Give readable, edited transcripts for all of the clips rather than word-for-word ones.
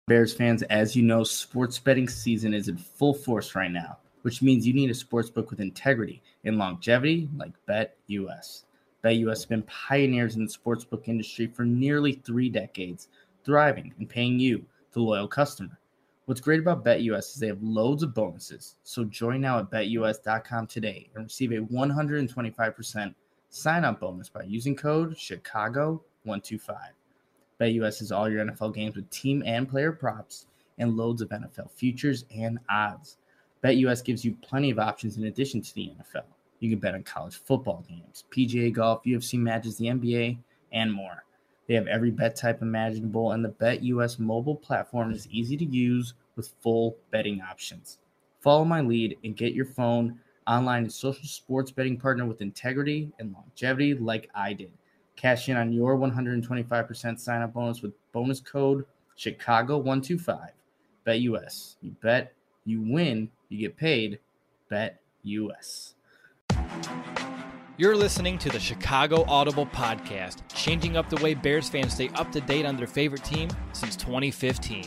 Bears fans, as you know, sports betting season is in full force right now, which means you need a sports book with integrity and longevity like BetUS. BetUS has been pioneers in the sportsbook industry for nearly 3 decades, thriving and paying you, the loyal customer. What's great about BetUS is they have loads of bonuses, so join now at betus.com today and receive a 125% sign-up bonus by using code Chicago125. BetUS is all your NFL games with team and player props and loads of NFL futures and odds. BetUS gives you plenty of options in addition to the NFL. You can bet on college football games, PGA golf, UFC matches, the NBA, and more. They have every bet type imaginable, and the BetUS mobile platform is easy to use with full betting options. Follow my lead and get your phone online and social sports betting partner with integrity and longevity like I did. Cash in on your 125% sign-up bonus with bonus code Chicago125. BetUS. You bet, you win, you get paid. BetUS. You're listening to the Chicago Audible Podcast, changing up the way Bears fans stay up to date on their favorite team since 2015.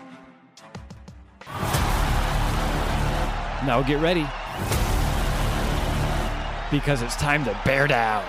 Now get ready, because it's time to bear down.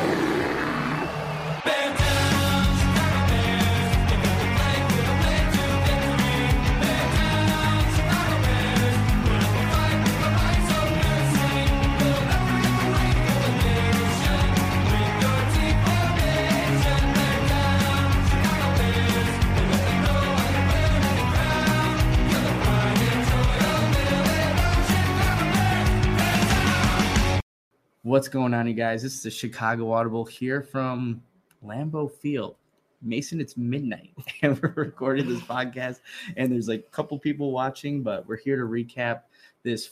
What's going on, you guys? This is the Chicago Audible here from Lambeau Field. Mason, it's midnight, and we're recording this podcast, and there's like a couple people watching, but we're here to recap this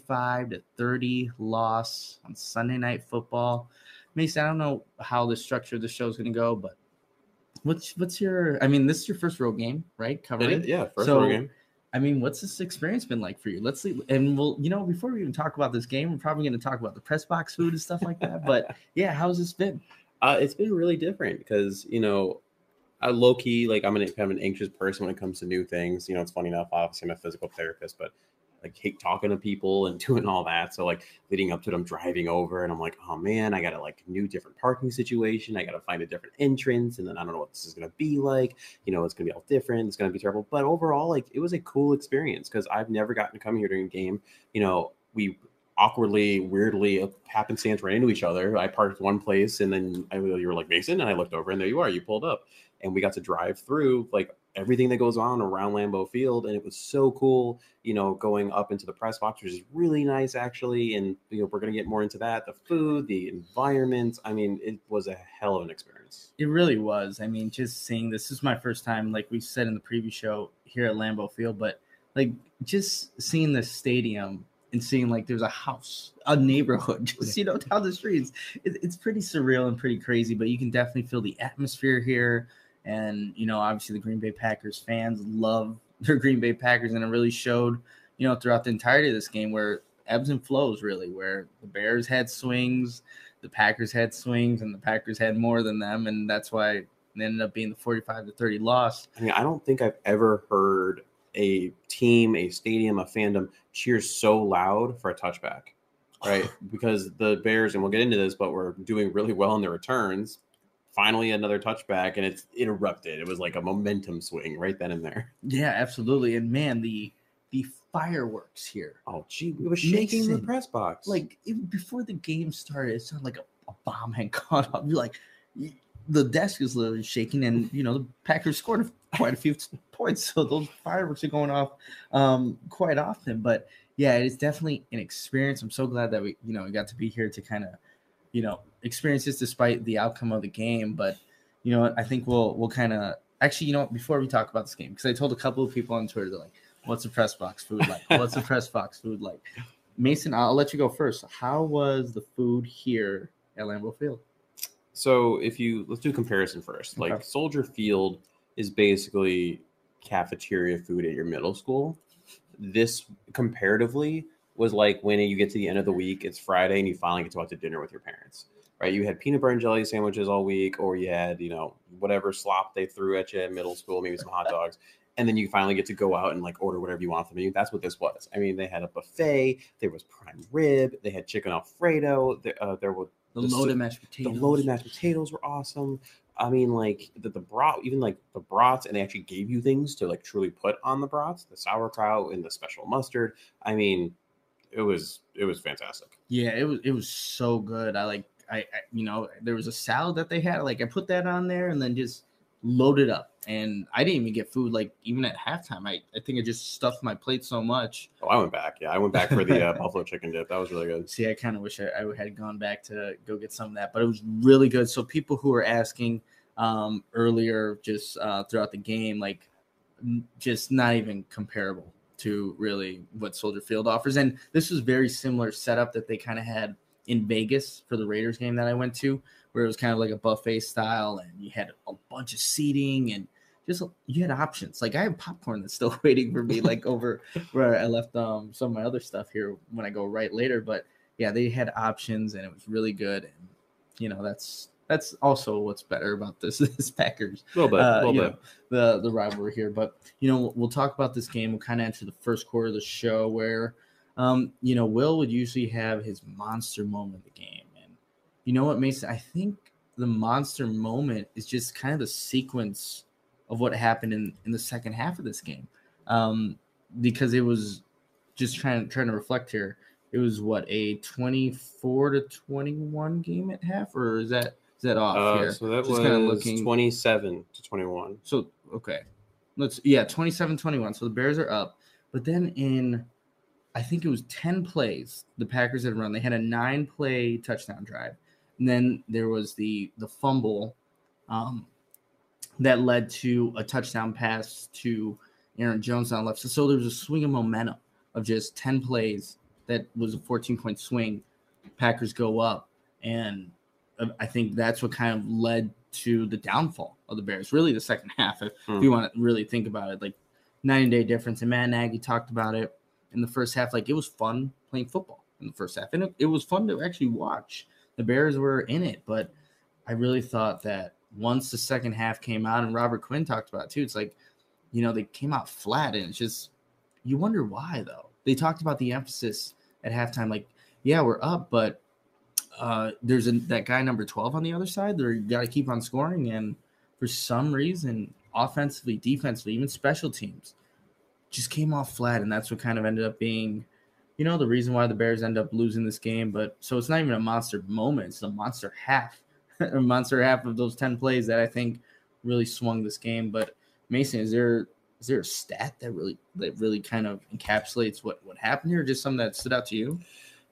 45-30 loss on Sunday Night Football. Mason, I don't know how the structure of the show is going to go, but what's your? I mean, this is your first road game, right? Covering, First road game. I mean, what's this experience been like for you? Let's see. And we'll, before we even talk about this game, we're probably going to talk about the press box food and stuff like that. But yeah, how's this been? It's been really different because, I low key, like I'm kind of an anxious person when it comes to new things. It's funny enough, obviously I'm a physical therapist, but like hate talking to people and doing all that. So like leading up to it, I'm driving over and I'm like, oh man, I got to like new different parking situation. I got to find a different entrance. And then I don't know what this is going to be like, it's going to be all different. It's going to be terrible. But overall, like it was a cool experience because I've never gotten to come here during a game. We awkwardly, weirdly, happenstance ran into each other. I parked one place and then you were like, Mason, and I looked over and there you are, you pulled up and we got to drive through like everything that goes on around Lambeau Field. And it was so cool, going up into the press box, which is really nice actually. And, we're going to get more into that, the food, the environment. I mean, it was a hell of an experience. It really was. I mean, just seeing this is my first time, like we said in the preview show here at Lambeau Field, but like just seeing the stadium and seeing like there's a house, a neighborhood, just, down the streets. It's pretty surreal and pretty crazy, but you can definitely feel the atmosphere here. And, obviously the Green Bay Packers fans love their Green Bay Packers. And it really showed, throughout the entirety of this game where ebbs and flows really, where the Bears had swings, the Packers had swings, and the Packers had more than them. And that's why it ended up being the 45-30 loss. I mean, I don't think I've ever heard a team, a stadium, a fandom cheer so loud for a touchback, right? Because the Bears, and we'll get into this, but we're doing really well in the returns. Finally, another touchback, and it's erupted. It was like a momentum swing right then and there. Yeah, absolutely. And man, the fireworks here. Oh, gee, we were shaking in the press box. Like before the game started, it sounded like a bomb had gone off. You're like, the desk is literally shaking, and the Packers scored quite a few points, so those fireworks are going off quite often. But yeah, it's definitely an experience. I'm so glad that we got to be here to kind of experience this despite the outcome of the game. But I think we'll kind of actually before we talk about this game, because I told a couple of people on Twitter, they're like, what's the press box food like? What's the press box food like? Mason, I'll let you go first. How was the food here at Lambeau Field? So let's do a comparison first. Okay. Like Soldier Field is basically cafeteria food at your middle school. This comparatively was like when you get to the end of the week, it's Friday, and you finally get to go out to dinner with your parents, right? You had peanut butter and jelly sandwiches all week, or you had, whatever slop they threw at you at middle school, maybe some hot dogs. and then you finally get to go out and like order whatever you want from the menu. That's what this was. I mean, they had a buffet. There was prime rib. They had chicken Alfredo. There were the loaded mashed potatoes. The loaded mashed potatoes were awesome. I mean, like the broth, even like the brats, and they actually gave you things to like truly put on the brats, the sauerkraut and the special mustard. I mean, it was fantastic. Yeah, it was so good. I there was a salad that they had. Like I put that on there and then just loaded up. And I didn't even get food like even at halftime. I think I just stuffed my plate so much. Oh, I went back. Yeah, I went back for the buffalo chicken dip. That was really good. See, I kind of wish I had gone back to go get some of that, but it was really good. So people who were asking earlier just throughout the game, like just not even comparable to really what Soldier Field offers. And this was very similar setup that they kind of had in Vegas for the Raiders game that I went to, where it was kind of like a buffet style and you had a bunch of seating and just you had options. Like I have popcorn that's still waiting for me, like over where I left some of my other stuff here when I go right later. But yeah, they had options and it was really good. And you know, that's also what's better about this Packers. A little bit. The rivalry here. But you know, we'll talk about this game. We'll kind of enter the first quarter of the show where you know, Will would usually have his monster moment of the game. And you know what, Mason? I think the monster moment is just kind of the sequence of what happened in the second half of this game. Because it was just trying to reflect here. It was what, a 24-21 game at half, or is that off here? So that just was 27-21. So okay. 27-21. So the Bears are up. But then in I think it was 10 plays the Packers had run. They had a 9-play touchdown drive. And then there was the fumble that led to a touchdown pass to Aaron Jones on the left. So there was a swing of momentum of just 10 plays that was a 14-point swing. Packers go up. And I think that's what kind of led to the downfall of the Bears, really the second half, if you want to really think about it. Like 9-day difference. And Matt Nagy talked about it in the first half. Like it was fun playing football in the first half. And it was fun to actually watch. The Bears were in it. But I really thought that once the second half came out, and Robert Quinn talked about it too, it's like, you know, they came out flat, and it's just, you wonder why, though. They talked about the emphasis at halftime, like, yeah, we're up, but there's that guy number 12 on the other side that you got to keep on scoring, and for some reason, offensively, defensively, even special teams, just came off flat, and that's what kind of ended up being, you know, the reason why the Bears end up losing this game. But so it's not even a monster moment, it's a monster half. A monster half of those 10 plays that I think really swung this game. But Mason, is there a stat that really kind of encapsulates what happened here, or just something that stood out to you?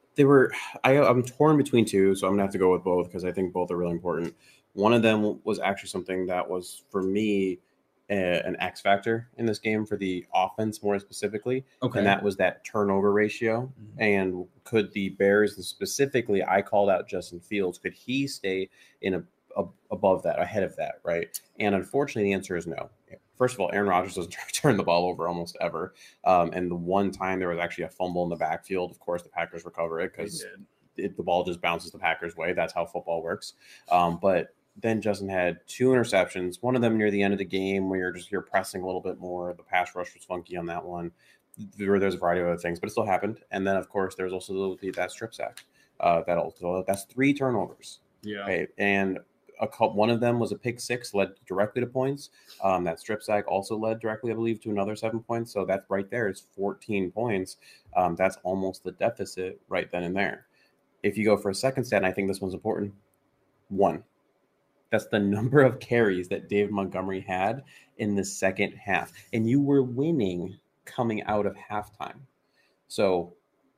I'm torn between two, so I'm gonna have to go with both because I think both are really important. One of them was actually something that was, for me, an X factor in this game for the offense more specifically. Okay. And that was that turnover ratio. Mm-hmm. And could the Bears, and specifically I called out Justin Fields, could he stay in above that, ahead of that, right? And unfortunately, the answer is no. First of all, Aaron Rodgers doesn't turn the ball over almost ever. And the one time there was actually a fumble in the backfield, of course, the Packers recover it because the ball just bounces the Packers' way. That's how football works. But then Justin had 2 interceptions, one of them near the end of the game where you're pressing a little bit more. The pass rush was funky on that one. There's a variety of other things, but it still happened. And then, of course, there's also that strip sack. That's 3 turnovers. Yeah. Right? And one of them was a pick 6, led directly to points. That strip sack also led directly, I believe, to another 7 points. So that's right there is 14 points. That's almost the deficit right then and there. If you go for a second stat, and I think this one's important, 1. That's the number of carries that David Montgomery had in the second half. And you were winning coming out of halftime. So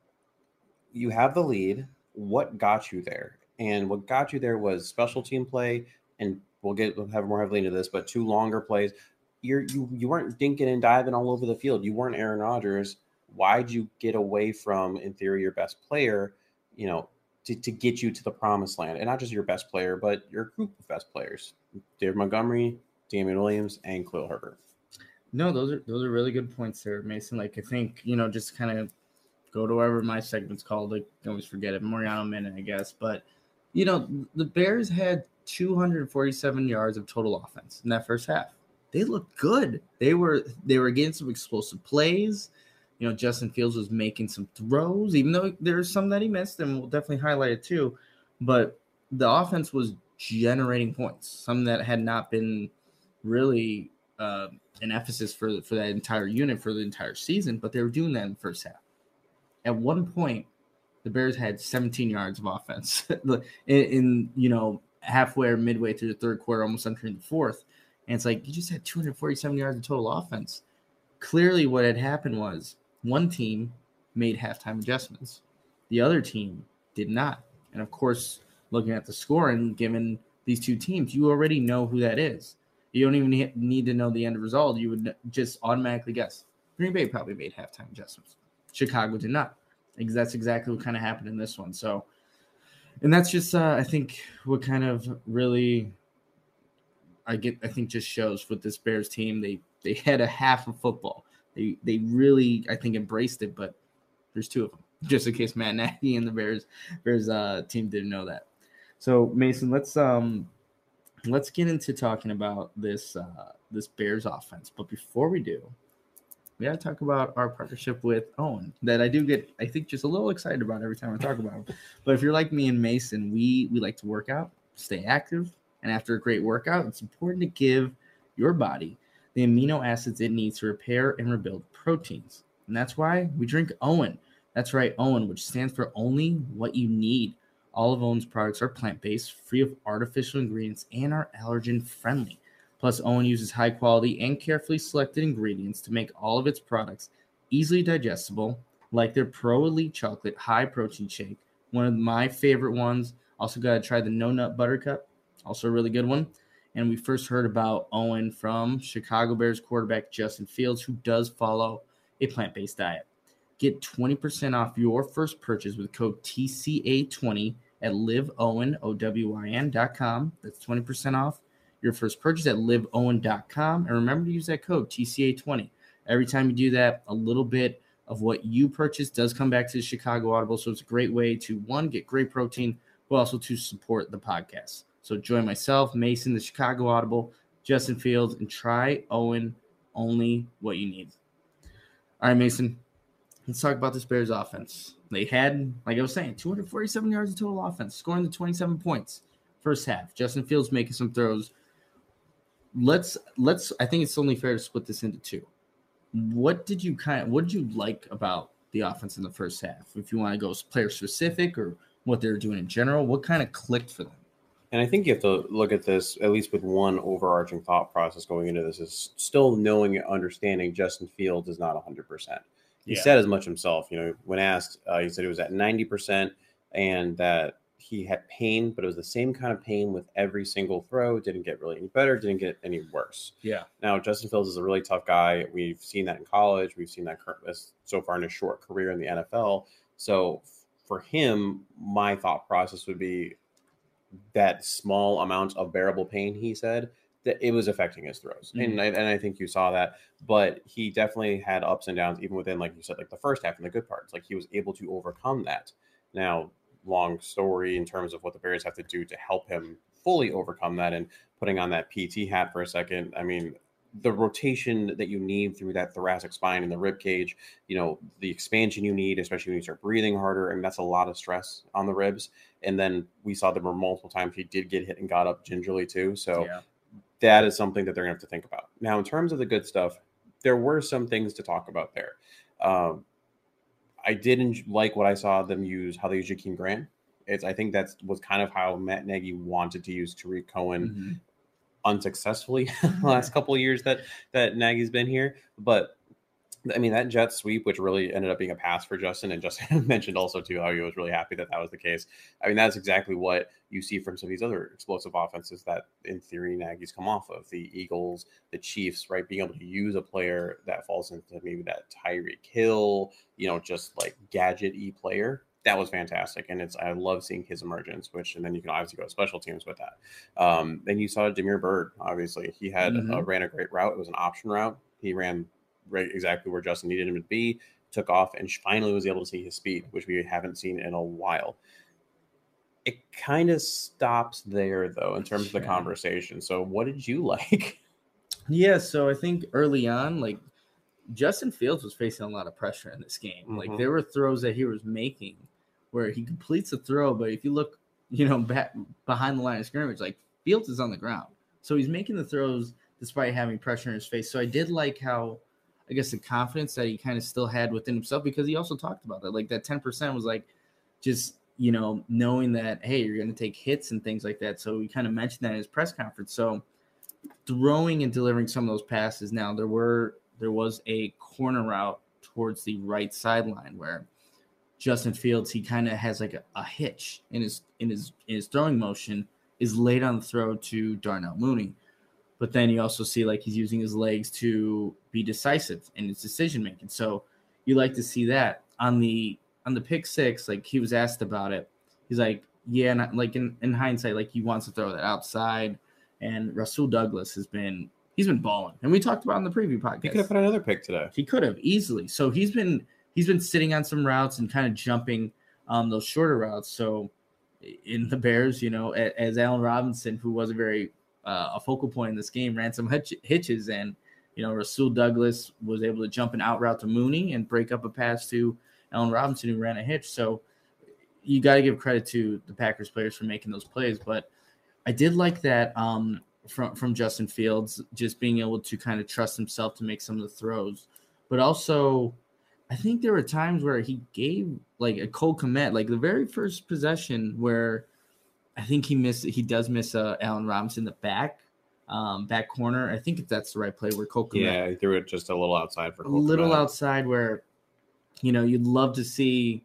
you have the lead. What got you there? And what got you there was special team play. And we'll have more heavily into this, but 2 longer plays. You weren't dinking and diving all over the field. You weren't Aaron Rodgers. Why'd you get away from, in theory, your best player, you know, to get you to the promised land? And not just your best player, but your group of best players, David Montgomery, Damian Williams, and Khalil Herbert. No, those are really good points there, Mason. Like, I think, you know, just kind of go to whatever my segment's called. I always forget it. Moriano Minute, I guess. But, you know, the Bears had 247 yards of total offense in that first half. they looked good. They were getting some explosive plays. Justin Fields was making some throws, even though there's some that he missed, and we'll definitely highlight it too. But the offense was generating points, some that had not been really an emphasis for that entire unit for the entire season, but they were doing that in the first half. At one point, the Bears had 17 yards of offense in halfway or midway through the third quarter, almost entering the fourth. And it's like, you just had 247 yards of total offense. Clearly what had happened was one team made halftime adjustments. The other team did not. And of course, looking at the score and given these two teams, you already know who that is. You don't even need to know the end result. You would just automatically guess. Green Bay probably made halftime adjustments. Chicago did not. Because that's exactly what kind of happened in this one. So, and that's just, I think, what kind of really, I think just shows with this Bears team. They had a half of football. They really, I think, embraced it, but there's two of them, just in case Matt Nagy and the Bears team didn't know that. So, Mason, let's get into talking about this Bears offense. But before we do, we got to talk about our partnership with Owen that I do get, I think, just a little excited about every time I talk about it. But if you're like me and Mason, we like to work out, stay active, and after a great workout, it's important to give your body the amino acids it needs to repair and rebuild proteins. And that's why we drink Owen. That's right, Owen, which stands for only what you need. All of Owen's products are plant-based, free of artificial ingredients, and are allergen-friendly. Plus, Owen uses high-quality and carefully selected ingredients to make all of its products easily digestible, like their Pro Elite Chocolate High-Protein Shake, one of my favorite ones. Also got to try the No Nut Buttercup, also a really good one. And we first heard about Owen from Chicago Bears quarterback Justin Fields, who does follow a plant-based diet. Get 20% off your first purchase with code TCA20 at liveowen.com. That's 20% off your first purchase at liveowen.com. And remember to use that code TCA20. Every time you do that, a little bit of what you purchase does come back to the Chicago Audible. So it's a great way to, one, get great protein, but also to support the podcast. So join myself, Mason, the Chicago Audible, Justin Fields, and try Owen, only what you need. All right, Mason, let's talk about this Bears offense. They had, like I was saying, 247 yards of total offense, scoring the 27 points first half. Justin Fields making some throws. Let's I think it's only fair to split this into two. What did you like about the offense in the first half? If you want to go player specific or what they're doing in general, what kind of clicked for them? And I think you have to look at this at least with one overarching thought process going into this is still knowing and understanding Justin Fields is not 100%. He said as much himself, when asked, he said he was at 90% and that he had pain, but it was the same kind of pain with every single throw. Didn't get really any better, didn't get any worse. Yeah. Now, Justin Fields is a really tough guy. We've seen that in college. We've seen that so far in his short career in the NFL. So for him, my thought process would be that small amount of bearable pain, he said, that it was affecting his throws. Mm-hmm. And I think you saw that. But he definitely had ups and downs, even within, like you said, like the first half and the good parts. Like he was able to overcome that. Now, long story in terms of what the Bears have to do to help him fully overcome that, and putting on that PT hat for a second. I mean, the rotation that you need through that thoracic spine and the rib cage, the expansion you need, especially when you start breathing harder, and that's a lot of stress on the ribs. And then we saw there were multiple times he did get hit and got up gingerly too. So that is something that they're gonna have to think about. Now, in terms of the good stuff, there were some things to talk about there. I didn't like what I saw them use, how they use Jakeem Grant. I think that was kind of how Matt Nagy wanted to use Tariq Cohen unsuccessfully the last couple of years that Nagy's been here. But I mean, that jet sweep, which really ended up being a pass for Justin, and Justin mentioned also too how he was really happy that was the case. I mean, that's exactly what you see from some of these other explosive offenses that, in theory, Nagy's come off of. The Eagles, the Chiefs, right? Being able to use a player that falls into maybe that Tyreek Hill, just like gadget-y player. That was fantastic, and I love seeing his emergence. And then you can obviously go to special teams with that. Then you saw Damiere Byrd. Obviously, he had ran a great route. It was an option route. He ran right exactly where Justin needed him to be. Took off and finally was able to see his speed, which we haven't seen in a while. It kind of stops there, though, in terms of the conversation. So, what did you like? Yeah, so I think early on, like Justin Fields was facing a lot of pressure in this game. Like Mm-hmm. there were throws that he was making where he completes a throw, but if you look, back behind the line of scrimmage, like Fields is on the ground. So he's making the throws despite having pressure in his face. So I did like how, I guess, the confidence that he kind of still had within himself, because he also talked about that. Like that 10% was like just, knowing that, hey, you're going to take hits and things like that. So he kind of mentioned that in his press conference. So throwing and delivering some of those passes. Now there was a corner route towards the right sideline where Justin Fields, he kind of has like a hitch in his throwing motion, is late on the throw to Darnell Mooney. But then you also see like he's using his legs to be decisive in his decision making. So you like to see that on the pick six. Like he was asked about it, he's like, yeah, and like in hindsight, like he wants to throw that outside. And Rasul Douglas he's been balling, and we talked about in the preview podcast. He could have put another pick today. He could have easily. So he's been sitting on some routes and kind of jumping those shorter routes. So in the Bears, as Allen Robinson, who was a focal point in this game, ran some hitches, and Rasul Douglas was able to jump an out route to Mooney and break up a pass to Allen Robinson, who ran a hitch. So you got to give credit to the Packers players for making those plays. But I did like that from Justin Fields, just being able to kind of trust himself to make some of the throws. But also, I think there were times where he gave like a Cole Kmet, like the very first possession where I think he does miss Allen Robinson in the back corner. I think that's the right play where Cole Kmet. Yeah, he threw it just a little outside for Cole a little Kmet. Outside where, you'd love to see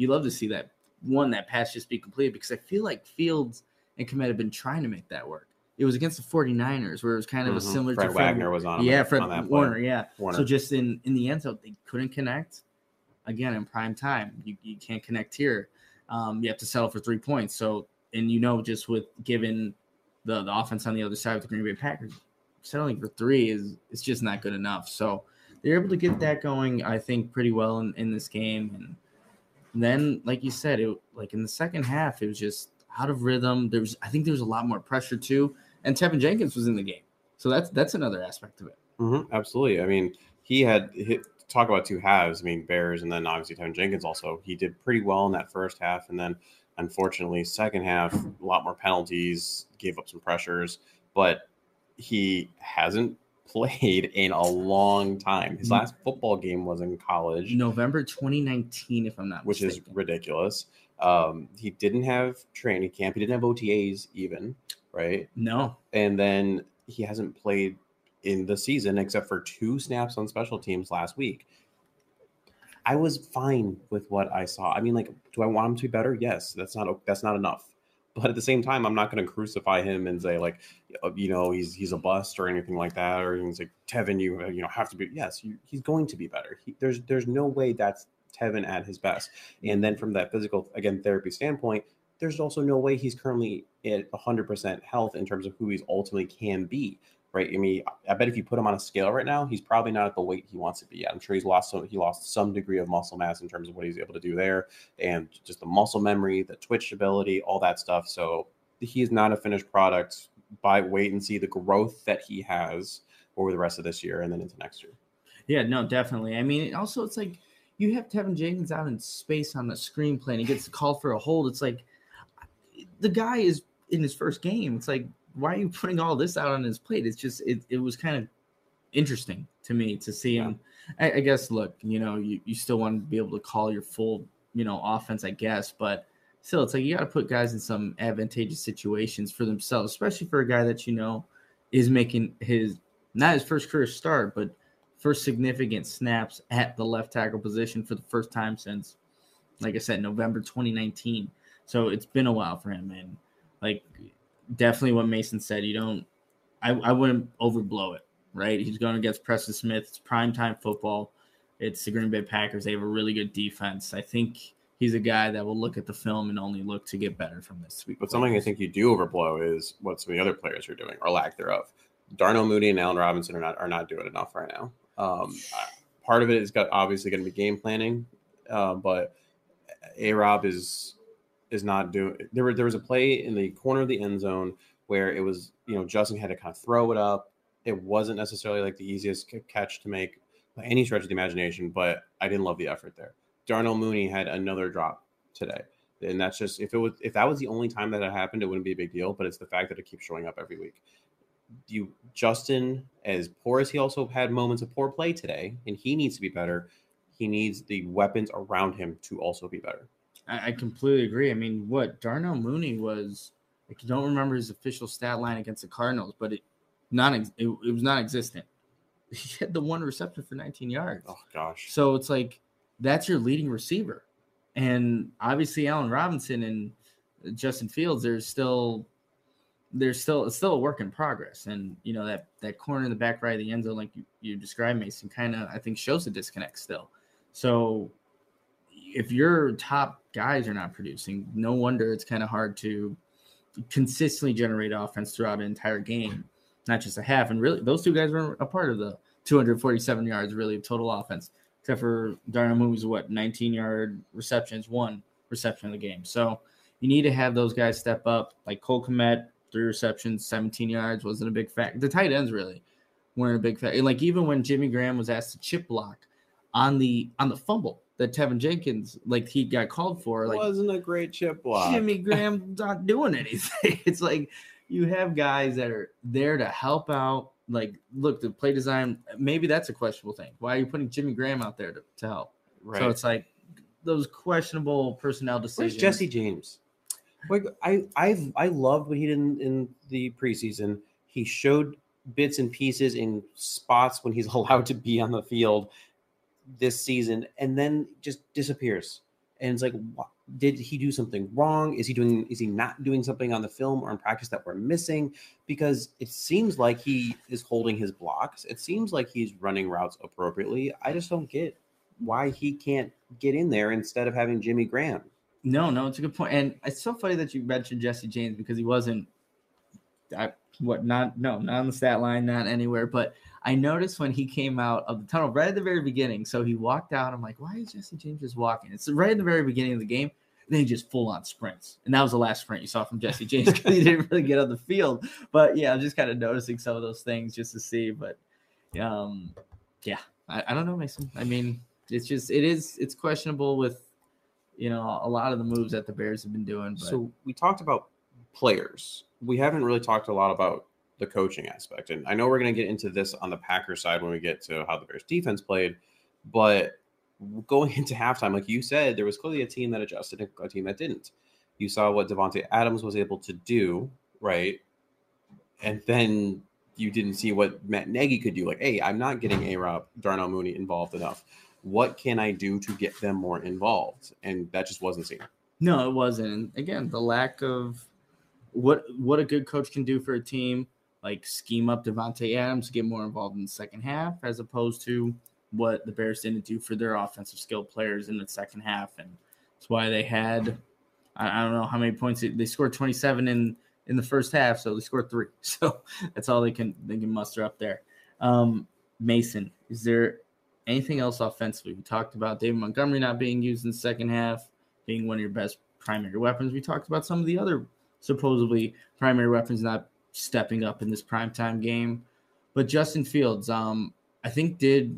that pass just be completed, because I feel like Fields and Kmet have been trying to make that work. It was against the 49ers where it was kind of a similar Fred to Wagner was on him. Yeah, Fred on that Warner, play. yeah. Warner. So just in the end zone, they couldn't connect. Again, in prime time, you can't connect here. You have to settle for 3 points. So, and just with given the offense on the other side with the Green Bay Packers, settling for 3 is just not good enough. So they're able to get that going, I think, pretty well in this game. And then, like you said, like in the second half, it was just out of rhythm. I think there was a lot more pressure too, and Tevin Jenkins was in the game, so that's another aspect of it. Mm-hmm, absolutely. I mean, he had talk about 2 halves. I mean, Bears, and then obviously Tevin Jenkins also. He did pretty well in that first half, and then unfortunately, second half, a lot more penalties, gave up some pressures, but he hasn't played in a long time. His last football game was in college, November 2019, if I'm not which mistaken. is ridiculous. He didn't have training camp. He didn't have OTAs even, right? No. And then he hasn't played in the season except for 2 snaps on special teams last week. I was fine with what I saw. I mean, like, do I want him to be better? Yes, that's not enough. But at the same time, I'm not going to crucify him and say like, he's a bust or anything like that. Or he's like, Tevin, you have to be. Yes, he's going to be better. There's no way that's Tevin at his best. And then from that physical, again, therapy standpoint, there's also no way he's currently at 100% health in terms of who he's ultimately can be. Right. I mean, I bet if you put him on a scale right now, he's probably not at the weight he wants to be at. I'm sure he lost some degree of muscle mass in terms of what he's able to do there, and just the muscle memory, the twitch ability, all that stuff. So he is not a finished product. Wait and see the growth that he has over the rest of this year and then into next year. Yeah, no, definitely. I mean, also it's like you have Tevin Jenkins out in space on the screenplay and he gets called for a hold. It's like the guy is in his first game. It's like, why are you putting all this out on his plate? It's just it was kind of interesting to me to see him. I guess, look, you still want to be able to call your full, offense, I guess, but still, it's like you got to put guys in some advantageous situations for themselves, especially for a guy that is making not his first career start, but first significant snaps at the left tackle position for the first time since, like I said, November 2019. So it's been a while for him, and like definitely what Mason said. I wouldn't overblow it, right? He's going against Preston Smith. It's primetime football. It's the Green Bay Packers. They have a really good defense. I think he's a guy that will look at the film and only look to get better from this week. But something I think you do overblow is what some of the other players are doing, or lack thereof. Darnell Mooney and Allen Robinson are not doing enough right now. Part of it is obviously going to be game planning, but A-Rob is not doing. There was a play in the corner of the end zone where it was, Justin had to kind of throw it up, It wasn't necessarily like the easiest catch to make by any stretch of the imagination, but I didn't love the effort there. Darnell Mooney had another drop today. And that's just if that was the only time that it happened, it wouldn't be a big deal. But it's the fact that it keeps showing up every week. Justin, as poor as he also had moments of poor play today, and he needs to be better. He needs the weapons around him to also be better. I completely agree. I mean, Darnell Mooney was, I don't remember his official stat line against the Cardinals, but it was non-existent. He had the one reception for 19 yards. Oh, gosh. So it's like, that's your leading receiver. And obviously Allen Robinson and Justin Fields, it's still a work in progress. And, you know, that corner in the back right of the end zone, like you described, Mason, kind of, I think, shows a disconnect still. So if your top guys are not producing, no wonder it's kind of hard to consistently generate offense throughout an entire game, not just a half. And really, those two guys were a part of the 247 yards, really, of total offense, except for Darnell Mooney's 19-yard receptions, one reception in the game. So you need to have those guys step up, like Cole Kmet, 3 receptions, 17 yards, wasn't a big factor. The tight ends really weren't a big factor. Like even when Jimmy Graham was asked to chip block on the fumble that Tevin Jenkins, like he got called for, like wasn't a great chip block. Jimmy Graham not doing anything. It's like you have guys that are there to help out. Like, look, the play design, maybe that's a questionable thing. Why are you putting Jimmy Graham out there to help? Right. So it's like those questionable personnel decisions. Where's Jesse James? Like I loved what he did in the preseason. He showed bits and pieces in spots when he's allowed to be on the field this season, and then just disappears. And it's like, did he do something wrong? Is he not doing something on the film or in practice that we're missing? Because it seems like he is holding his blocks. It seems like he's running routes appropriately. I just don't get why he can't get in there instead of having Jimmy Graham. No, it's a good point. And it's so funny that you mentioned Jesse James because he wasn't not on the stat line, not anywhere. But I noticed when he came out of the tunnel right at the very beginning. So he walked out. I'm like, why is Jesse James just walking? It's right at the very beginning of the game. And then he just full on sprints. And that was the last sprint you saw from Jesse James because he didn't really get on the field. But yeah, I'm just kind of noticing some of those things just to see. But yeah, I don't know, Mason. I mean, it's questionable with, you know, a lot of the moves that the Bears have been doing. But. So we talked about players. We haven't really talked a lot about the coaching aspect. And I know we're going to get into this on the Packers side when we get to how the Bears defense played. But going into halftime, like you said, there was clearly a team that adjusted, a team that didn't. You saw what Davante Adams was able to do, right? And then you didn't see what Matt Nagy could do. Like, hey, I'm not getting A-Rob, Darnell Mooney involved enough. What can I do to get them more involved? And that just wasn't seen. No, it wasn't. And again, the lack of what a good coach can do for a team, like scheme up Davante Adams to get more involved in the second half, as opposed to what the Bears didn't do for their offensive skill players in the second half. And that's why they had, I don't know how many points they scored 27 in the first half, so they scored 3. So that's all they can muster up there. Mason, is there anything else offensively? We talked about David Montgomery not being used in the second half, being one of your best primary weapons. We talked about some of the other supposedly primary weapons not stepping up in this primetime game. But Justin Fields, I think he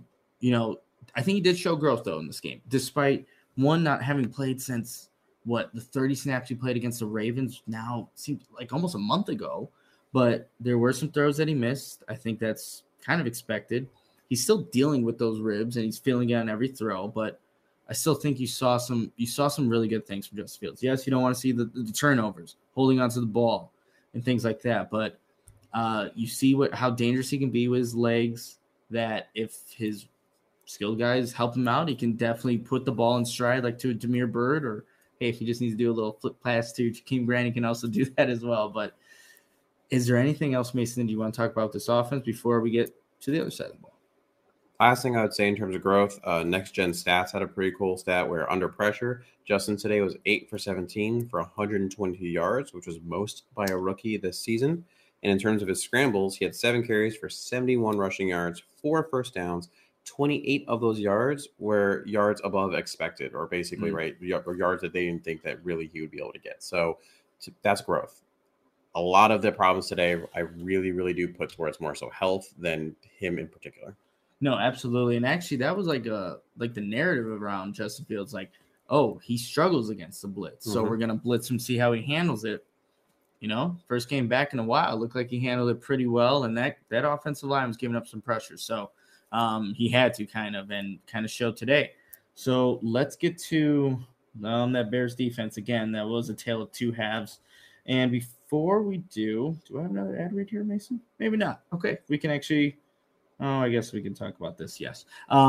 did show growth, though, in this game, despite one not having played since the 30 snaps he played against the Ravens now seems like almost a month ago. But there were some throws that he missed. I think that's kind of expected. He's still dealing with those ribs, and he's feeling it on every throw. But I still think you saw some really good things from Justin Fields. Yes, you don't want to see the turnovers, holding onto the ball, and things like that. But you see how dangerous he can be with his legs. That if his skilled guys help him out, he can definitely put the ball in stride, like to a Damiere Byrd, or hey, if he just needs to do a little flip pass to Jakeem Grant, he can also do that as well. But is there anything else, Mason, do you want to talk about this offense before we get to the other side of the ball? Last thing I would say in terms of growth, Next Gen Stats had a pretty cool stat where under pressure, Justin today was 8 for 17 for 120 yards, which was most by a rookie this season. And in terms of his scrambles, he had 7 carries for 71 rushing yards, 4 first downs. 28 of those yards were yards above expected, or basically, right, or yards that they didn't think that really he would be able to get. So that's growth. a lot of the problems today, I really, really do put towards more so health than him in particular. No, absolutely. And actually that was like the narrative around Justin Fields, like, oh, he struggles against the blitz. So we're gonna blitz him, see how he handles it. First game back in a while, looked like he handled it pretty well, and that offensive line was giving up some pressure. So he had to kind of show today. So let's get to that Bears defense again. That was a tale of two halves. And before we do I have another ad read here, Mason? Maybe not. Okay, we can actually. Oh, I guess we can talk about this. Yes.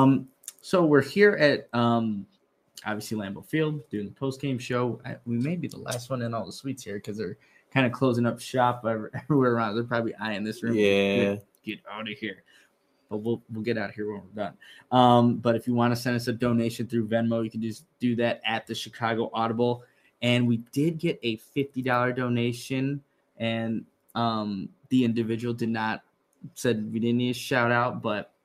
So we're here at obviously Lambeau Field doing the post-game show. We may be the last one in all the suites here because they're kind of closing up shop everywhere around. They're probably eyeing this room. Yeah. Get out of here. But we'll get out of here when we're done. But if you want to send us a donation through Venmo, you can just do that at the Chicago Audible. And we did get a $50 donation, and the individual said we didn't need a shout out, but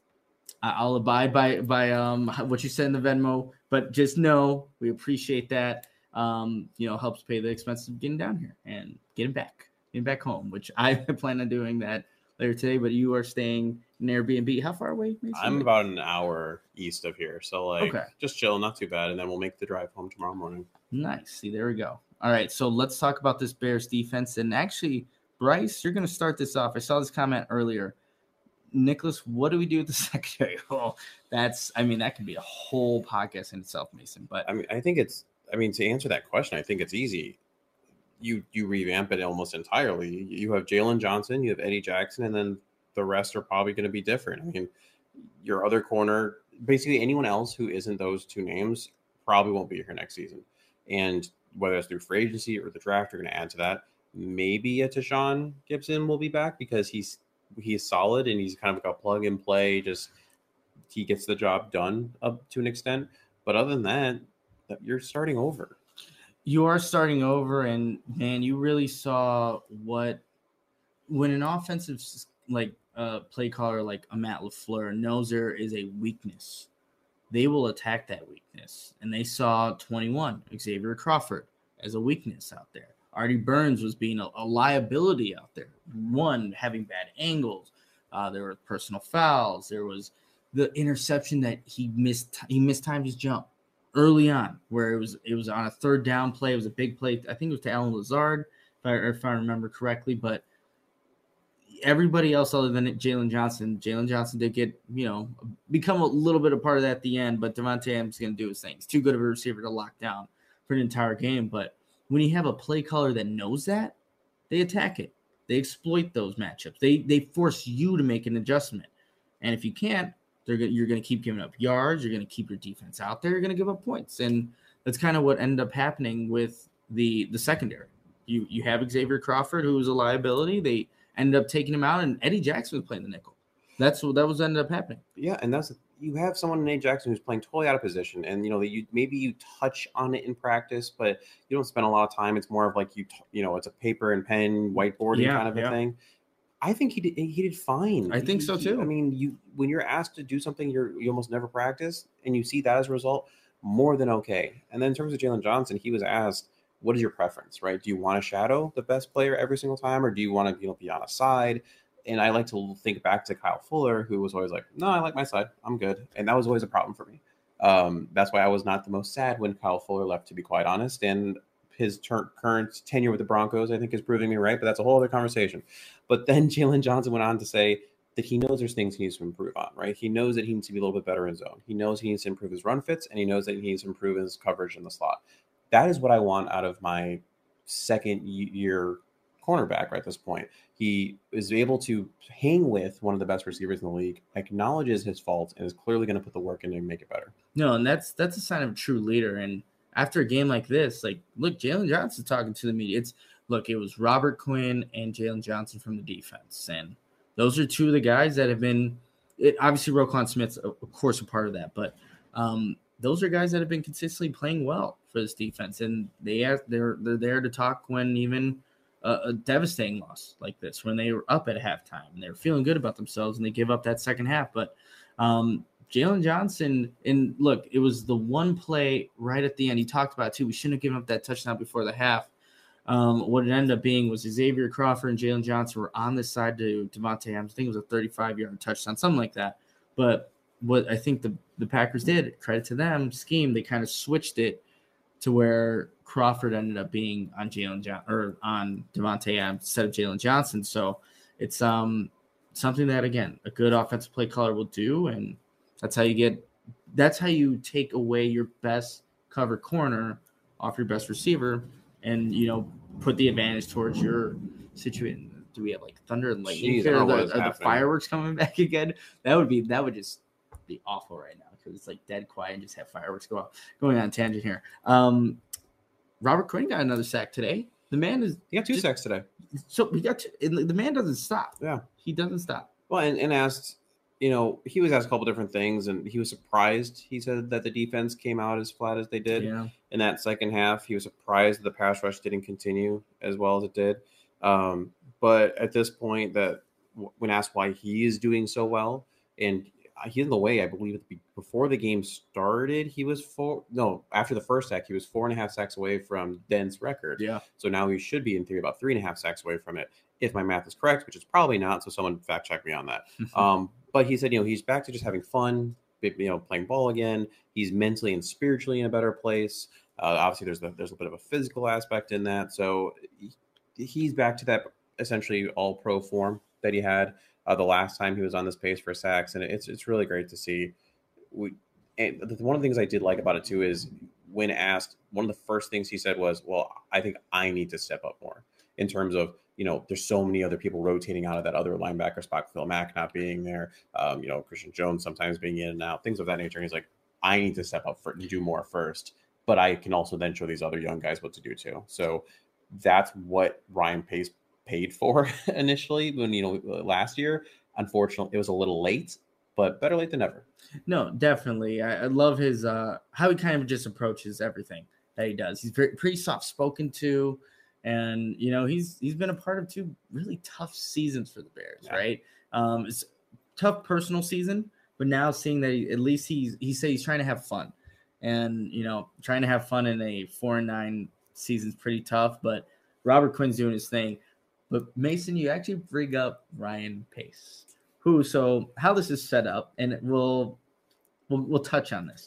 I'll abide by what you said in the Venmo. But just know we appreciate that. Helps pay the expenses of getting down here and getting back home, which I plan on doing that later today. But you are staying in Airbnb. How far away, Mason? I'm about an hour east of here, so just chill, not too bad, and then we'll make the drive home tomorrow morning. Nice. See, there we go. All right, so let's talk about this Bears defense. And actually, Bryce, you're going to start this off. I saw this comment earlier. Nicholas, what do we do with the secondary? Well, that could be a whole podcast in itself, Mason. But I think to answer that question, I think it's easy. You revamp it almost entirely. You have Jalen Johnson, you have Eddie Jackson, and then the rest are probably going to be different. I mean, your other corner, basically anyone else who isn't those two names probably won't be here next season. And whether it's through free agency or the draft, you're going to add to that. Maybe a Tashaun Gibson will be back because he's solid and he's kind of like a plug and play. Just he gets the job done up to an extent. But other than that, you're starting over. You are starting over, and man, you really saw when an offensive play caller like a Matt LaFleur knows there is a weakness, they will attack that weakness. And they saw 21 Xavier Crawford as a weakness out there. Artie Burns was being a liability out there. One, having bad angles. There were personal fouls. There was the interception that he mistimed his jump early on, where it was on a third down play. It was a big play. I think it was to Allen Lazard, if I remember correctly. But everybody else other than Jalen Johnson did become a little bit a part of that at the end. But Devontae Adams is going to do his thing. He's too good of a receiver to lock down for an entire game. But when you have a play caller that knows that, they attack it. They exploit those matchups. They force you to make an adjustment. And if you can't, you're going to keep giving up yards. You're going to keep your defense out there. You're going to give up points. And that's kind of what ended up happening with the secondary. You have Xavier Crawford, who was a liability. They ended up taking him out, and Eddie Jackson was playing the nickel. That was ended up happening. Yeah, and you have someone in Eddie Jackson who's playing totally out of position, and maybe you touch on it in practice, but you don't spend a lot of time. It's more of like it's a paper and pen whiteboarding kind of a thing. I think he did fine. I think so too. When you're asked to do something you almost never practice, and you see that as a result, more than okay. And then in terms of Jalen Johnson, he was asked, "What is your preference? Right? Do you want to shadow the best player every single time, or do you want to be on a side?" And I like to think back to Kyle Fuller, who was always like, "No, I like my side. I'm good," and that was always a problem for me. That's why I was not the most sad when Kyle Fuller left, to be quite honest. And his current tenure with the Broncos, I think, is proving me right, but that's a whole other conversation. But then Jalen Johnson went on to say that he knows there's things he needs to improve on, right? He knows that he needs to be a little bit better in zone. He knows he needs to improve his run fits, and he knows that he needs to improve his coverage in the slot. That is what I want out of my second-year cornerback right at this point. He is able to hang with one of the best receivers in the league, acknowledges his faults, and is clearly going to put the work in to make it better. No, and that's a sign of a true leader. And after a game like this, look, Jalen Johnson talking to the media. It was Robert Quinn and Jalen Johnson from the defense. And those are two of the guys that have been – obviously Roquan Smith's, of course, a part of that. But those are guys that have been consistently playing well for this defense. And they're there to talk when even a devastating loss like this, when they were up at halftime and they were feeling good about themselves and they give up that second half. But Jalen Johnson, and look, it was the one play right at the end. He talked about it too. We shouldn't have given up that touchdown before the half. What it ended up being was Xavier Crawford and Jalen Johnson were on this side to Davante Adams. I think it was a 35-yard touchdown, something like that. But what I think the Packers did, credit to them, scheme, they kind of switched it to where Crawford ended up being on on Davante Adams instead of Jalen Johnson. So it's something that, again, a good offensive play caller will do, and that's how you take away your best cover corner off your best receiver, and put the advantage towards your situation. Do we have like thunder and lightning here? Are the fireworks coming back again? That would just be awful right now because it's like dead quiet and just have fireworks go off. Going on a tangent here. Robert Quinn got another sack today. The man he got 2 sacks today. So we got the man doesn't stop. Yeah, he doesn't stop. Well, and asked, he was asked a couple different things, and he was surprised. He said that the defense came out as flat as they did in that second half. He was surprised that the pass rush didn't continue as well as it did. But at this point, that when asked why he is doing so well, and he's in the way, I believe before the game started, after the first sack, he was 4.5 sacks away from Dent's record. Yeah. So now he should be in theory about 3.5 sacks away from it, if my math is correct, which is probably not. So someone fact check me on that. But he said, he's back to just having fun, playing ball again. He's mentally and spiritually in a better place. Obviously, there's a bit of a physical aspect in that. So he's back to that essentially all-pro form that he had the last time he was on this pace for sacks, and it's really great to see. And one of the things I did like about it too is when asked, one of the first things he said was, "Well, I think I need to step up more in terms of there's so many other people rotating out of that other linebacker spot, Phil Mack not being there, Christian Jones sometimes being in and out, things of that nature." And he's like, "I need to step up and do more first, but I can also then show these other young guys what to do too." So that's what Ryan Pace paid for initially when last year. Unfortunately, it was a little late, but better late than never. No, definitely. I love his how he kind of just approaches everything that he does. He's pretty soft spoken too, and he's been a part of 2 really tough seasons for the Bears, right? It's a tough personal season, but now seeing that at least he said he's trying to have fun, and trying to have fun in a 4-9 season is pretty tough. But Robert Quinn's doing his thing. But Mason, you actually bring up Ryan Pace, so how this is set up, and we'll touch on this.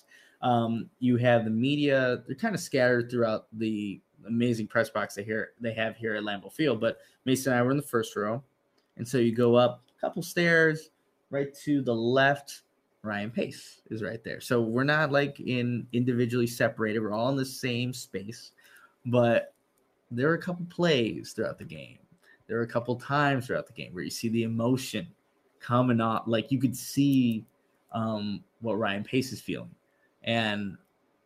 You have the media; they're kind of scattered throughout the amazing press box they have here at Lambeau Field. But Mason and I were in the first row, and so you go up a couple stairs, right to the left. Ryan Pace is right there. So we're not like individually separated; we're all in the same space. But there are a couple plays throughout the game. There were a couple times throughout the game where you see the emotion coming off, like you could see what Ryan Pace is feeling. And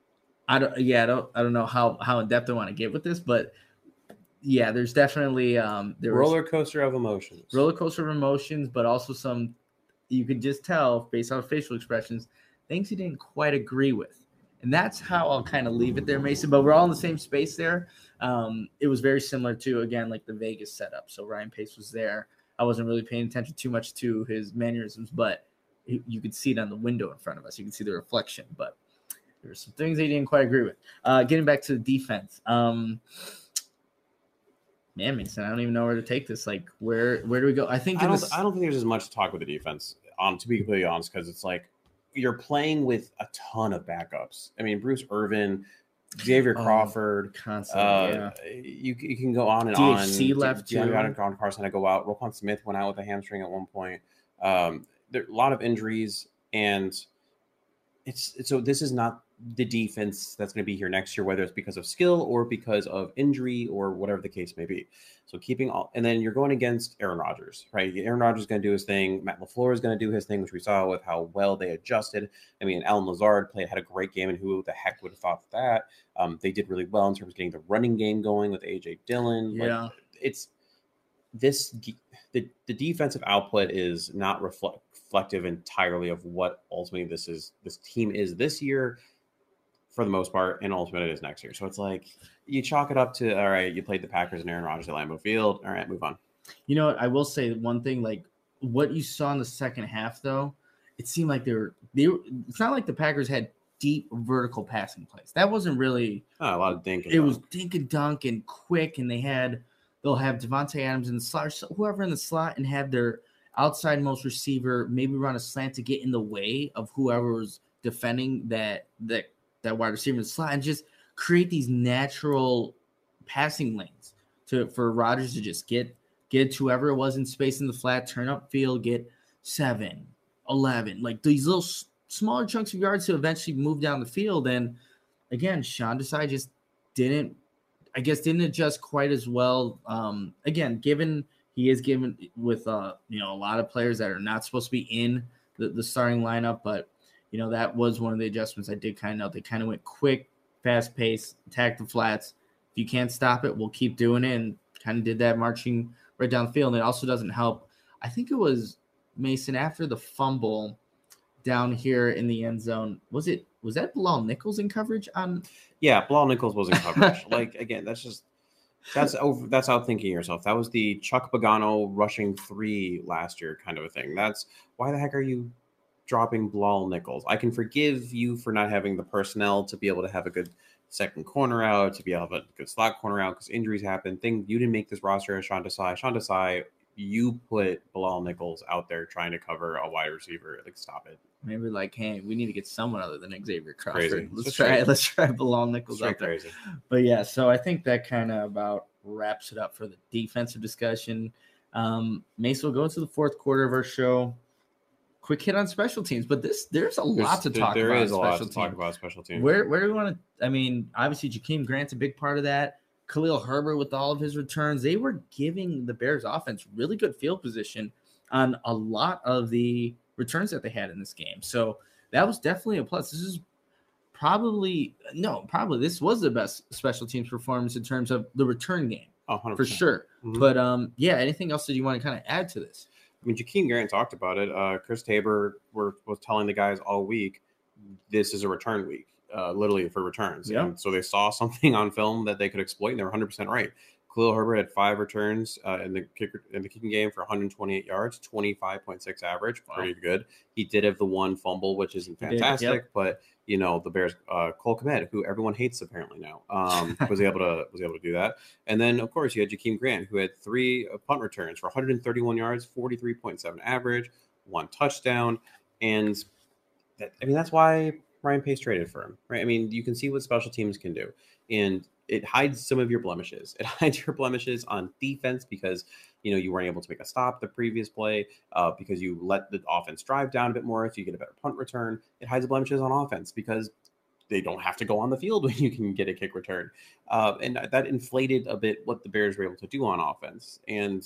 I don't know how in depth I want to get with this, but yeah, there's definitely roller coaster of emotions, but also some you could just tell based on facial expressions things he didn't quite agree with. And that's how I'll kind of leave it there, Mason. But we're all in the same space there. It was very similar to, again, like the Vegas setup. So Ryan Pace was there. I wasn't really paying attention too much to his mannerisms, but you could see it on the window in front of us. You can see the reflection. But there were some things he didn't quite agree with. Getting back to the defense. Man, Mason, I don't even know where to take this. Like, where do we go? I don't think there's as much to talk with the defense, to be completely honest, because it's like, you're playing with a ton of backups. I mean, Bruce Irvin, Xavier Crawford, you can go on and DHC on. left too. DeAndre Carson had to go out. Roquan Smith went out with a hamstring at one point. There are a lot of injuries, and so this is not the defense that's going to be here next year, whether it's because of skill or because of injury or whatever the case may be. So and then you're going against Aaron Rodgers, right? Aaron Rodgers is going to do his thing. Matt LaFleur is going to do his thing, which we saw with how well they adjusted. I mean, Allen Lazard had a great game, and who the heck would have thought that? They did really well in terms of getting the running game going with A.J. Dillon. Yeah. The defensive output is not reflective entirely of what ultimately this team is this year, for the most part, and ultimately it is next year. So it's like you chalk it up to, all right, you played the Packers and Aaron Rodgers at Lambeau Field. All right, move on. You know what? I will say one thing, like what you saw in the second half, though, it seemed like they were it's not like the Packers had deep vertical passing plays. That wasn't really a lot of dink. It was dink and dunk and quick, and they'll have Devontae Adams in the slot, or whoever in the slot, and have their outside most receiver maybe run a slant to get in the way of whoever was defending that wide receiver in the slot, and just create these natural passing lanes for Rodgers to just get to whoever it was in space in the flat, turn up field, get 7, 11, like these little smaller chunks of yards to eventually move down the field. And again, Sean Desai just didn't adjust quite as well. Again, given he is given with a lot of players that are not supposed to be in the starting lineup, but that was one of the adjustments I did kind of note. They kind of went quick, fast pace, attack the flats. If you can't stop it, we'll keep doing it, and kind of did that marching right down the field. And it also doesn't help. I think it was Mason after the fumble down here in the end zone. Was that Bilal Nichols in coverage on? Yeah, Bilal Nichols was in coverage. Like, again, that's outthinking yourself. That was the Chuck Pagano rushing 3 last year kind of a thing. That's why the heck are you dropping Bilal Nichols? I can forgive you for not having the personnel to be able to have a good second corner out, to be able to have a good slot corner out because injuries happen. You didn't make this roster as Sean Desai. Sean Desai, you put Bilal Nichols out there trying to cover a wide receiver. Like, stop it. Maybe like, hey, we need to get someone other than Xavier Crawford. Let's try Bilal Nichols out there. Crazy. But yeah, so I think that kind of about wraps it up for the defensive discussion. Mace will go into the fourth quarter of our show. Quick hit on special teams, but there's a lot to talk about. There is a lot to talk about special teams. Where do we want to? I mean, obviously Jakeem Grant's a big part of that. Khalil Herbert with all of his returns, they were giving the Bears offense really good field position on a lot of the returns that they had in this game. So that was definitely a plus. This was the best special teams performance in terms of the return game. 100%. For sure. Mm-hmm. But yeah, anything else that you want to kind of add to this? I mean, Jakeem Grant talked about it. Chris Tabor was telling the guys all week, this is a return week, literally for returns. Yeah. And so they saw something on film that they could exploit, and they were 100% right. Khalil Herbert had 5 returns in the kicking game for 128 yards, 25.6 average, pretty good. He did have the one fumble, which isn't fantastic, but the Bears, Cole Kmet, who everyone hates apparently now, was able to do that. And then of course you had Jakeem Grant, who had 3 punt returns for 131 yards, 43.7 average, 1 touchdown, and that's why Ryan Pace traded for him, right? I mean, you can see what special teams can do, and it hides some of your blemishes. It hides your blemishes on defense because, you weren't able to make a stop the previous play because you let the offense drive down a bit more. If you get a better punt return, it hides the blemishes on offense because they don't have to go on the field when you can get a kick return. And that inflated a bit what the Bears were able to do on offense. And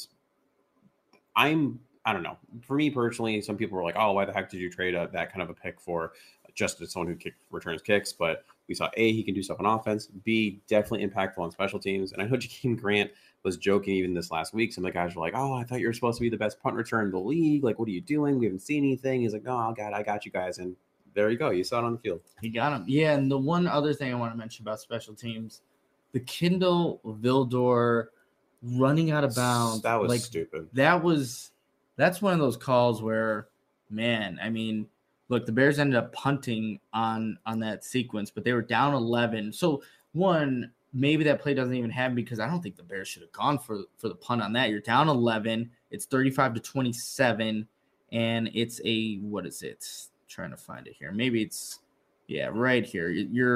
I don't know. For me personally, some people were like, oh, why the heck did you trade that kind of a pick for just someone who returns kicks? But we saw A, he can do stuff on offense. B, definitely impactful on special teams. And I know Jakeem Grant was joking even this last week. Some of the guys were like, oh, I thought you were supposed to be the best punt return in the league. Like, what are you doing? We haven't seen anything. He's like, no, God, I got you guys. And there you go. You saw it on the field. He got him. Yeah, and the one other thing I want to mention about special teams, the Kindle Vildor running out of bounds. That was stupid. That's one of those calls where, man, I mean, look, the Bears ended up punting on that sequence, but they were down 11. So, one, maybe that play doesn't even happen because I don't think the Bears should have gone for the punt on that. You're down 11. It's 35-27, and it's what is it? I'm trying to find it here. Maybe it's, right here.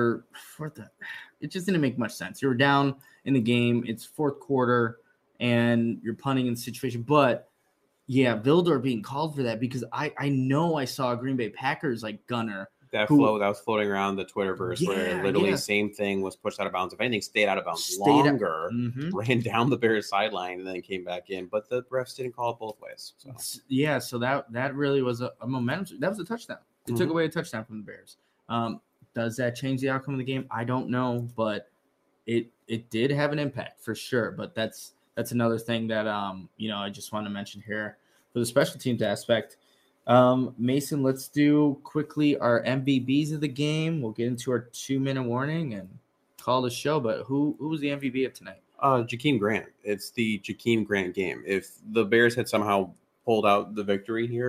It just didn't make much sense. You were down in the game. It's fourth quarter, and you're punting in the situation, but yeah, Vildor being called for that because I know I saw a Green Bay Packers gunner. That was floating around the Twitterverse where literally same thing was pushed out of bounds. If anything, stayed out of bounds longer, ran down the Bears sideline, and then came back in. But the refs didn't call it both ways. So. Yeah, so that really was a momentum. That was a touchdown. It took away a touchdown from the Bears. Does that change the outcome of the game? I don't know, but it did have an impact for sure. But that's another thing that I just want to mention here for the special teams aspect. Mason, let's do quickly our MVBs of the game. We'll get into our 2-minute warning and call the show. But who was the MVP of tonight? Jakeem Grant. It's the Jakeem Grant game. If the Bears had somehow pulled out the victory here,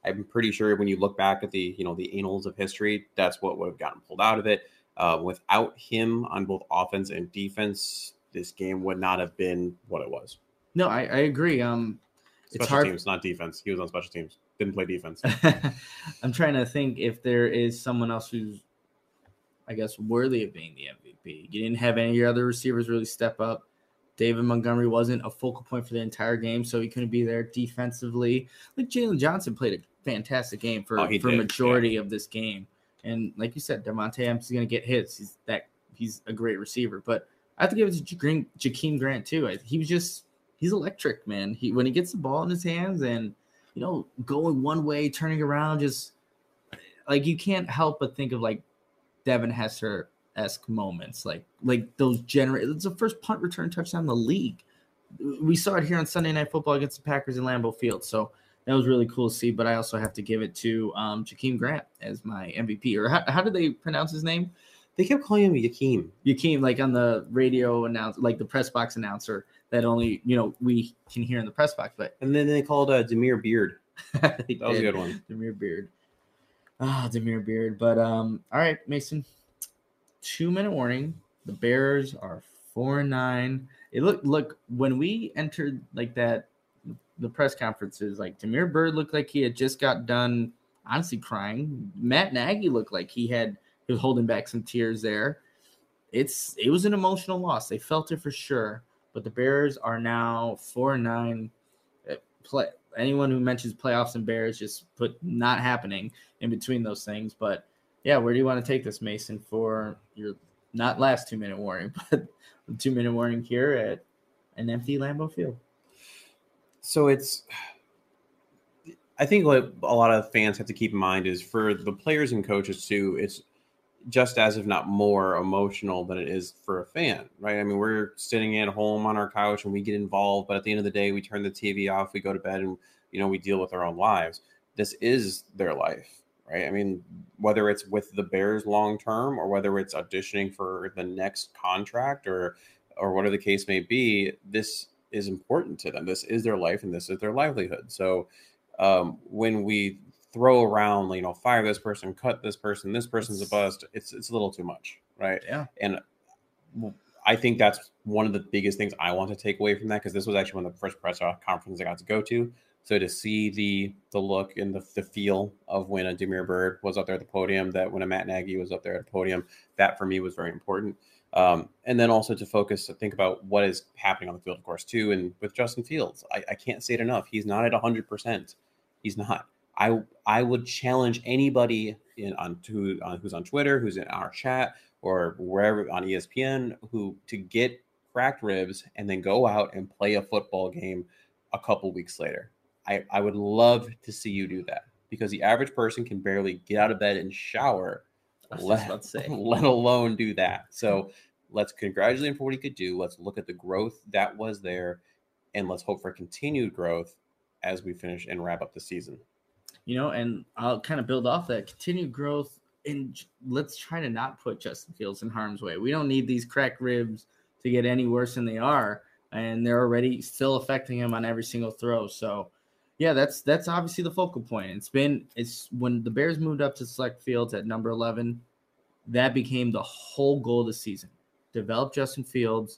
I'm pretty sure when you look back at the annals of history, that's what would have gotten pulled out of it. Without him on both offense and defense, this game would not have been what it was. No, I agree. It's Special hard. teams, not defense. He was on special teams. Didn't play defense. I'm trying to think if there is someone else who's, I guess, worthy of being the MVP. You didn't have any of your other receivers really step up. David Montgomery wasn't a focal point for the entire game, so he couldn't be there defensively. Like Jalen Johnson played a fantastic game for majority of this game. And like you said, Devontae Adams is going to get hits. He's a great receiver. But I have to give it to Jakeem Grant too. He's electric, man. When he gets the ball in his hands and going one way, turning around, just like you can't help but think of like Devin Hester-esque moments, like those it's the first punt return touchdown in the league. We saw it here on Sunday Night Football against the Packers in Lambeau Field, so that was really cool to see. But I also have to give it to Jakeem Grant as my MVP. Or how do they pronounce his name? They kept calling him Yakeem. Yakeem, like on the radio like the press box announcer that only we can hear in the press box. But and then they called Damiere Beard. That was a good one. Damiere Beard. Damiere Beard. But all right, Mason. 2-minute warning. The Bears are 4-9. It look when we entered like that, the press conferences, like Damiere Byrd looked like he had just got done honestly crying. Matt Nagy looked like he was holding back some tears there. It was an emotional loss. They felt it for sure. But the Bears are now 4-9. Anyone who mentions playoffs and Bears just put not happening in between those things. But yeah, where do you want to take this, Mason, for your not last 2-minute warning, but the 2-minute warning here at an empty Lambeau Field? So I think what a lot of fans have to keep in mind is for the players and coaches too, it's just as if not more emotional than it is for a fan, right? I mean, we're sitting at home on our couch and we get involved, but at the end of the day, we turn the TV off, we go to bed, and we deal with our own lives. This is their life, right? I mean, whether it's with the Bears long term or whether it's auditioning for the next contract or whatever the case may be, this is important to them. This is their life and this is their livelihood. So when we throw around, fire this person, cut this person, this person's a bust, it's a little too much, right? Yeah. And I think that's one of the biggest things I want to take away from that, because this was actually one of the first press conferences I got to go to. So to see the look and the feel of when a Damiere Byrd was up there at the podium, that when a Matt Nagy was up there at the podium, that for me was very important. And then also to think about what is happening on the field, of course, too. And with Justin Fields, I can't say it enough. He's not at 100%. He's not. I would challenge anybody who's on Twitter, who's in our chat, or wherever on ESPN, to get cracked ribs and then go out and play a football game a couple weeks later. I would love to see you do that, because the average person can barely get out of bed and shower, let alone do that. So let's congratulate him for what he could do. Let's look at the growth that was there, and let's hope for continued growth as we finish and wrap up the season. And I'll kind of build off that continued growth, and let's try to not put Justin Fields in harm's way. We don't need these cracked ribs to get any worse than they are, and they're already still affecting him on every single throw. So yeah, that's obviously the focal point. It's when the Bears moved up to select Fields at number 11, that became the whole goal of the season. Develop Justin Fields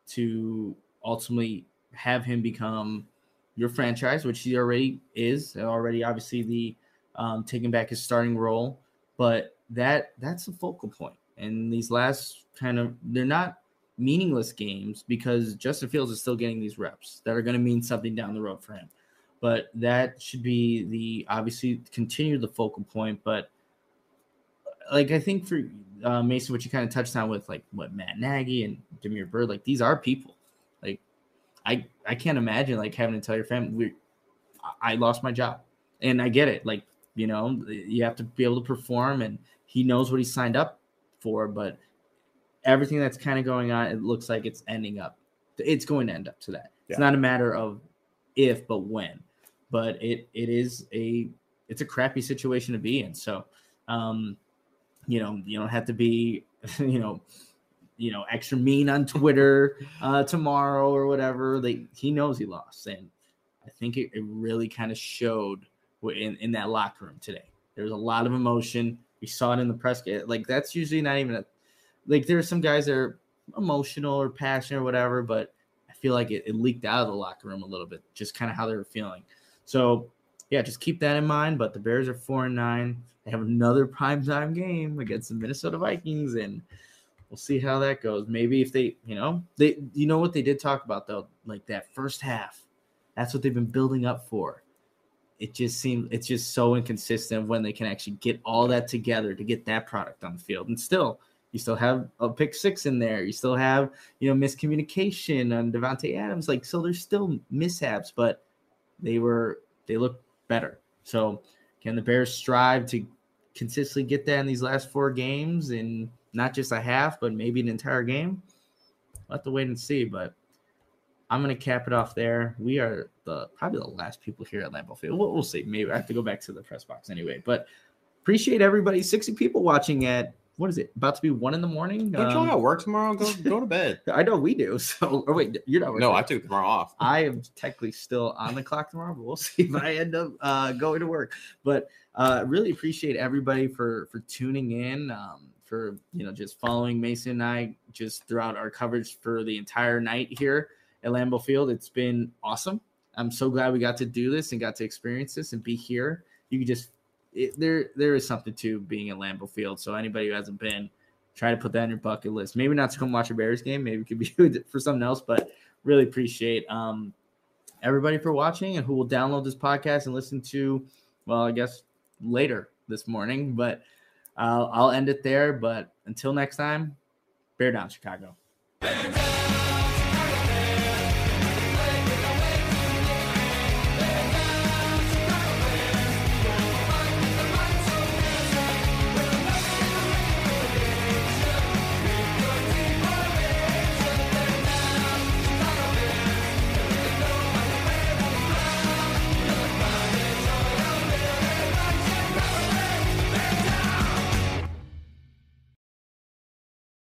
to ultimately have him become your franchise, which he already is. Already, obviously, the taking back his starting role, but that's the focal point. And these last they're not meaningless games, because Justin Fields is still getting these reps that are going to mean something down the road for him. But that should be obviously continue the focal point. But like, I think for Mason, what you kind of touched on with like what Matt Nagy and Damiere Byrd, like these are people. Like I can't imagine like having to tell your family I lost my job, and I get it. Like, you have to be able to perform, and he knows what he signed up for, but everything that's kind of going on, it looks like it's going to end up to that. Yeah. It's not a matter of if, but when. But it's a crappy situation to be in. So, you don't have to be, extra mean on Twitter tomorrow or whatever. He knows he lost, and I think it really kind of showed in that locker room today. There was a lot of emotion. We saw it in the press. Like, that's usually not even like, there are some guys that are emotional or passionate or whatever, but I feel like it leaked out of the locker room a little bit, just kind of how they were feeling. So, yeah, just keep that in mind. But the Bears are 4-9. They have another primetime game against the Minnesota Vikings, and we'll see how that goes. Maybe if they what they did talk about, though, like that first half, that's what they've been building up for. It's just so inconsistent when they can actually get all that together to get that product on the field. And still, you still have a pick six in there. You still have, miscommunication on Devontae Adams. Like, so there's still mishaps, but they look better. So can the Bears strive to consistently get that in these last 4 games, and not just a half, but maybe an entire game? We'll have to wait and see, but I'm going to cap it off there. We are probably the last people here at Lambeau Field. We'll see. Maybe I have to go back to the press box anyway, but appreciate everybody. 60 people watching at, what is it, about to be 1 a.m? Don't you all have work tomorrow? Go to bed. I know we do. So, or wait, you're not working. No, I took tomorrow off. I am technically still on the clock tomorrow, but we'll see if I end up going to work. But really appreciate everybody for tuning in, for just following Mason and I just throughout our coverage for the entire night here at Lambeau Field. It's been awesome. I'm so glad we got to do this and got to experience this and be here. You can just there is something to being at Lambeau Field. So anybody who hasn't been, try to put that on your bucket list. Maybe not to come watch a Bears game. Maybe it could be for something else. But really appreciate everybody for watching and who will download this podcast and listen to, well, I guess later this morning. But I'll end it there. But until next time, bear down, Chicago.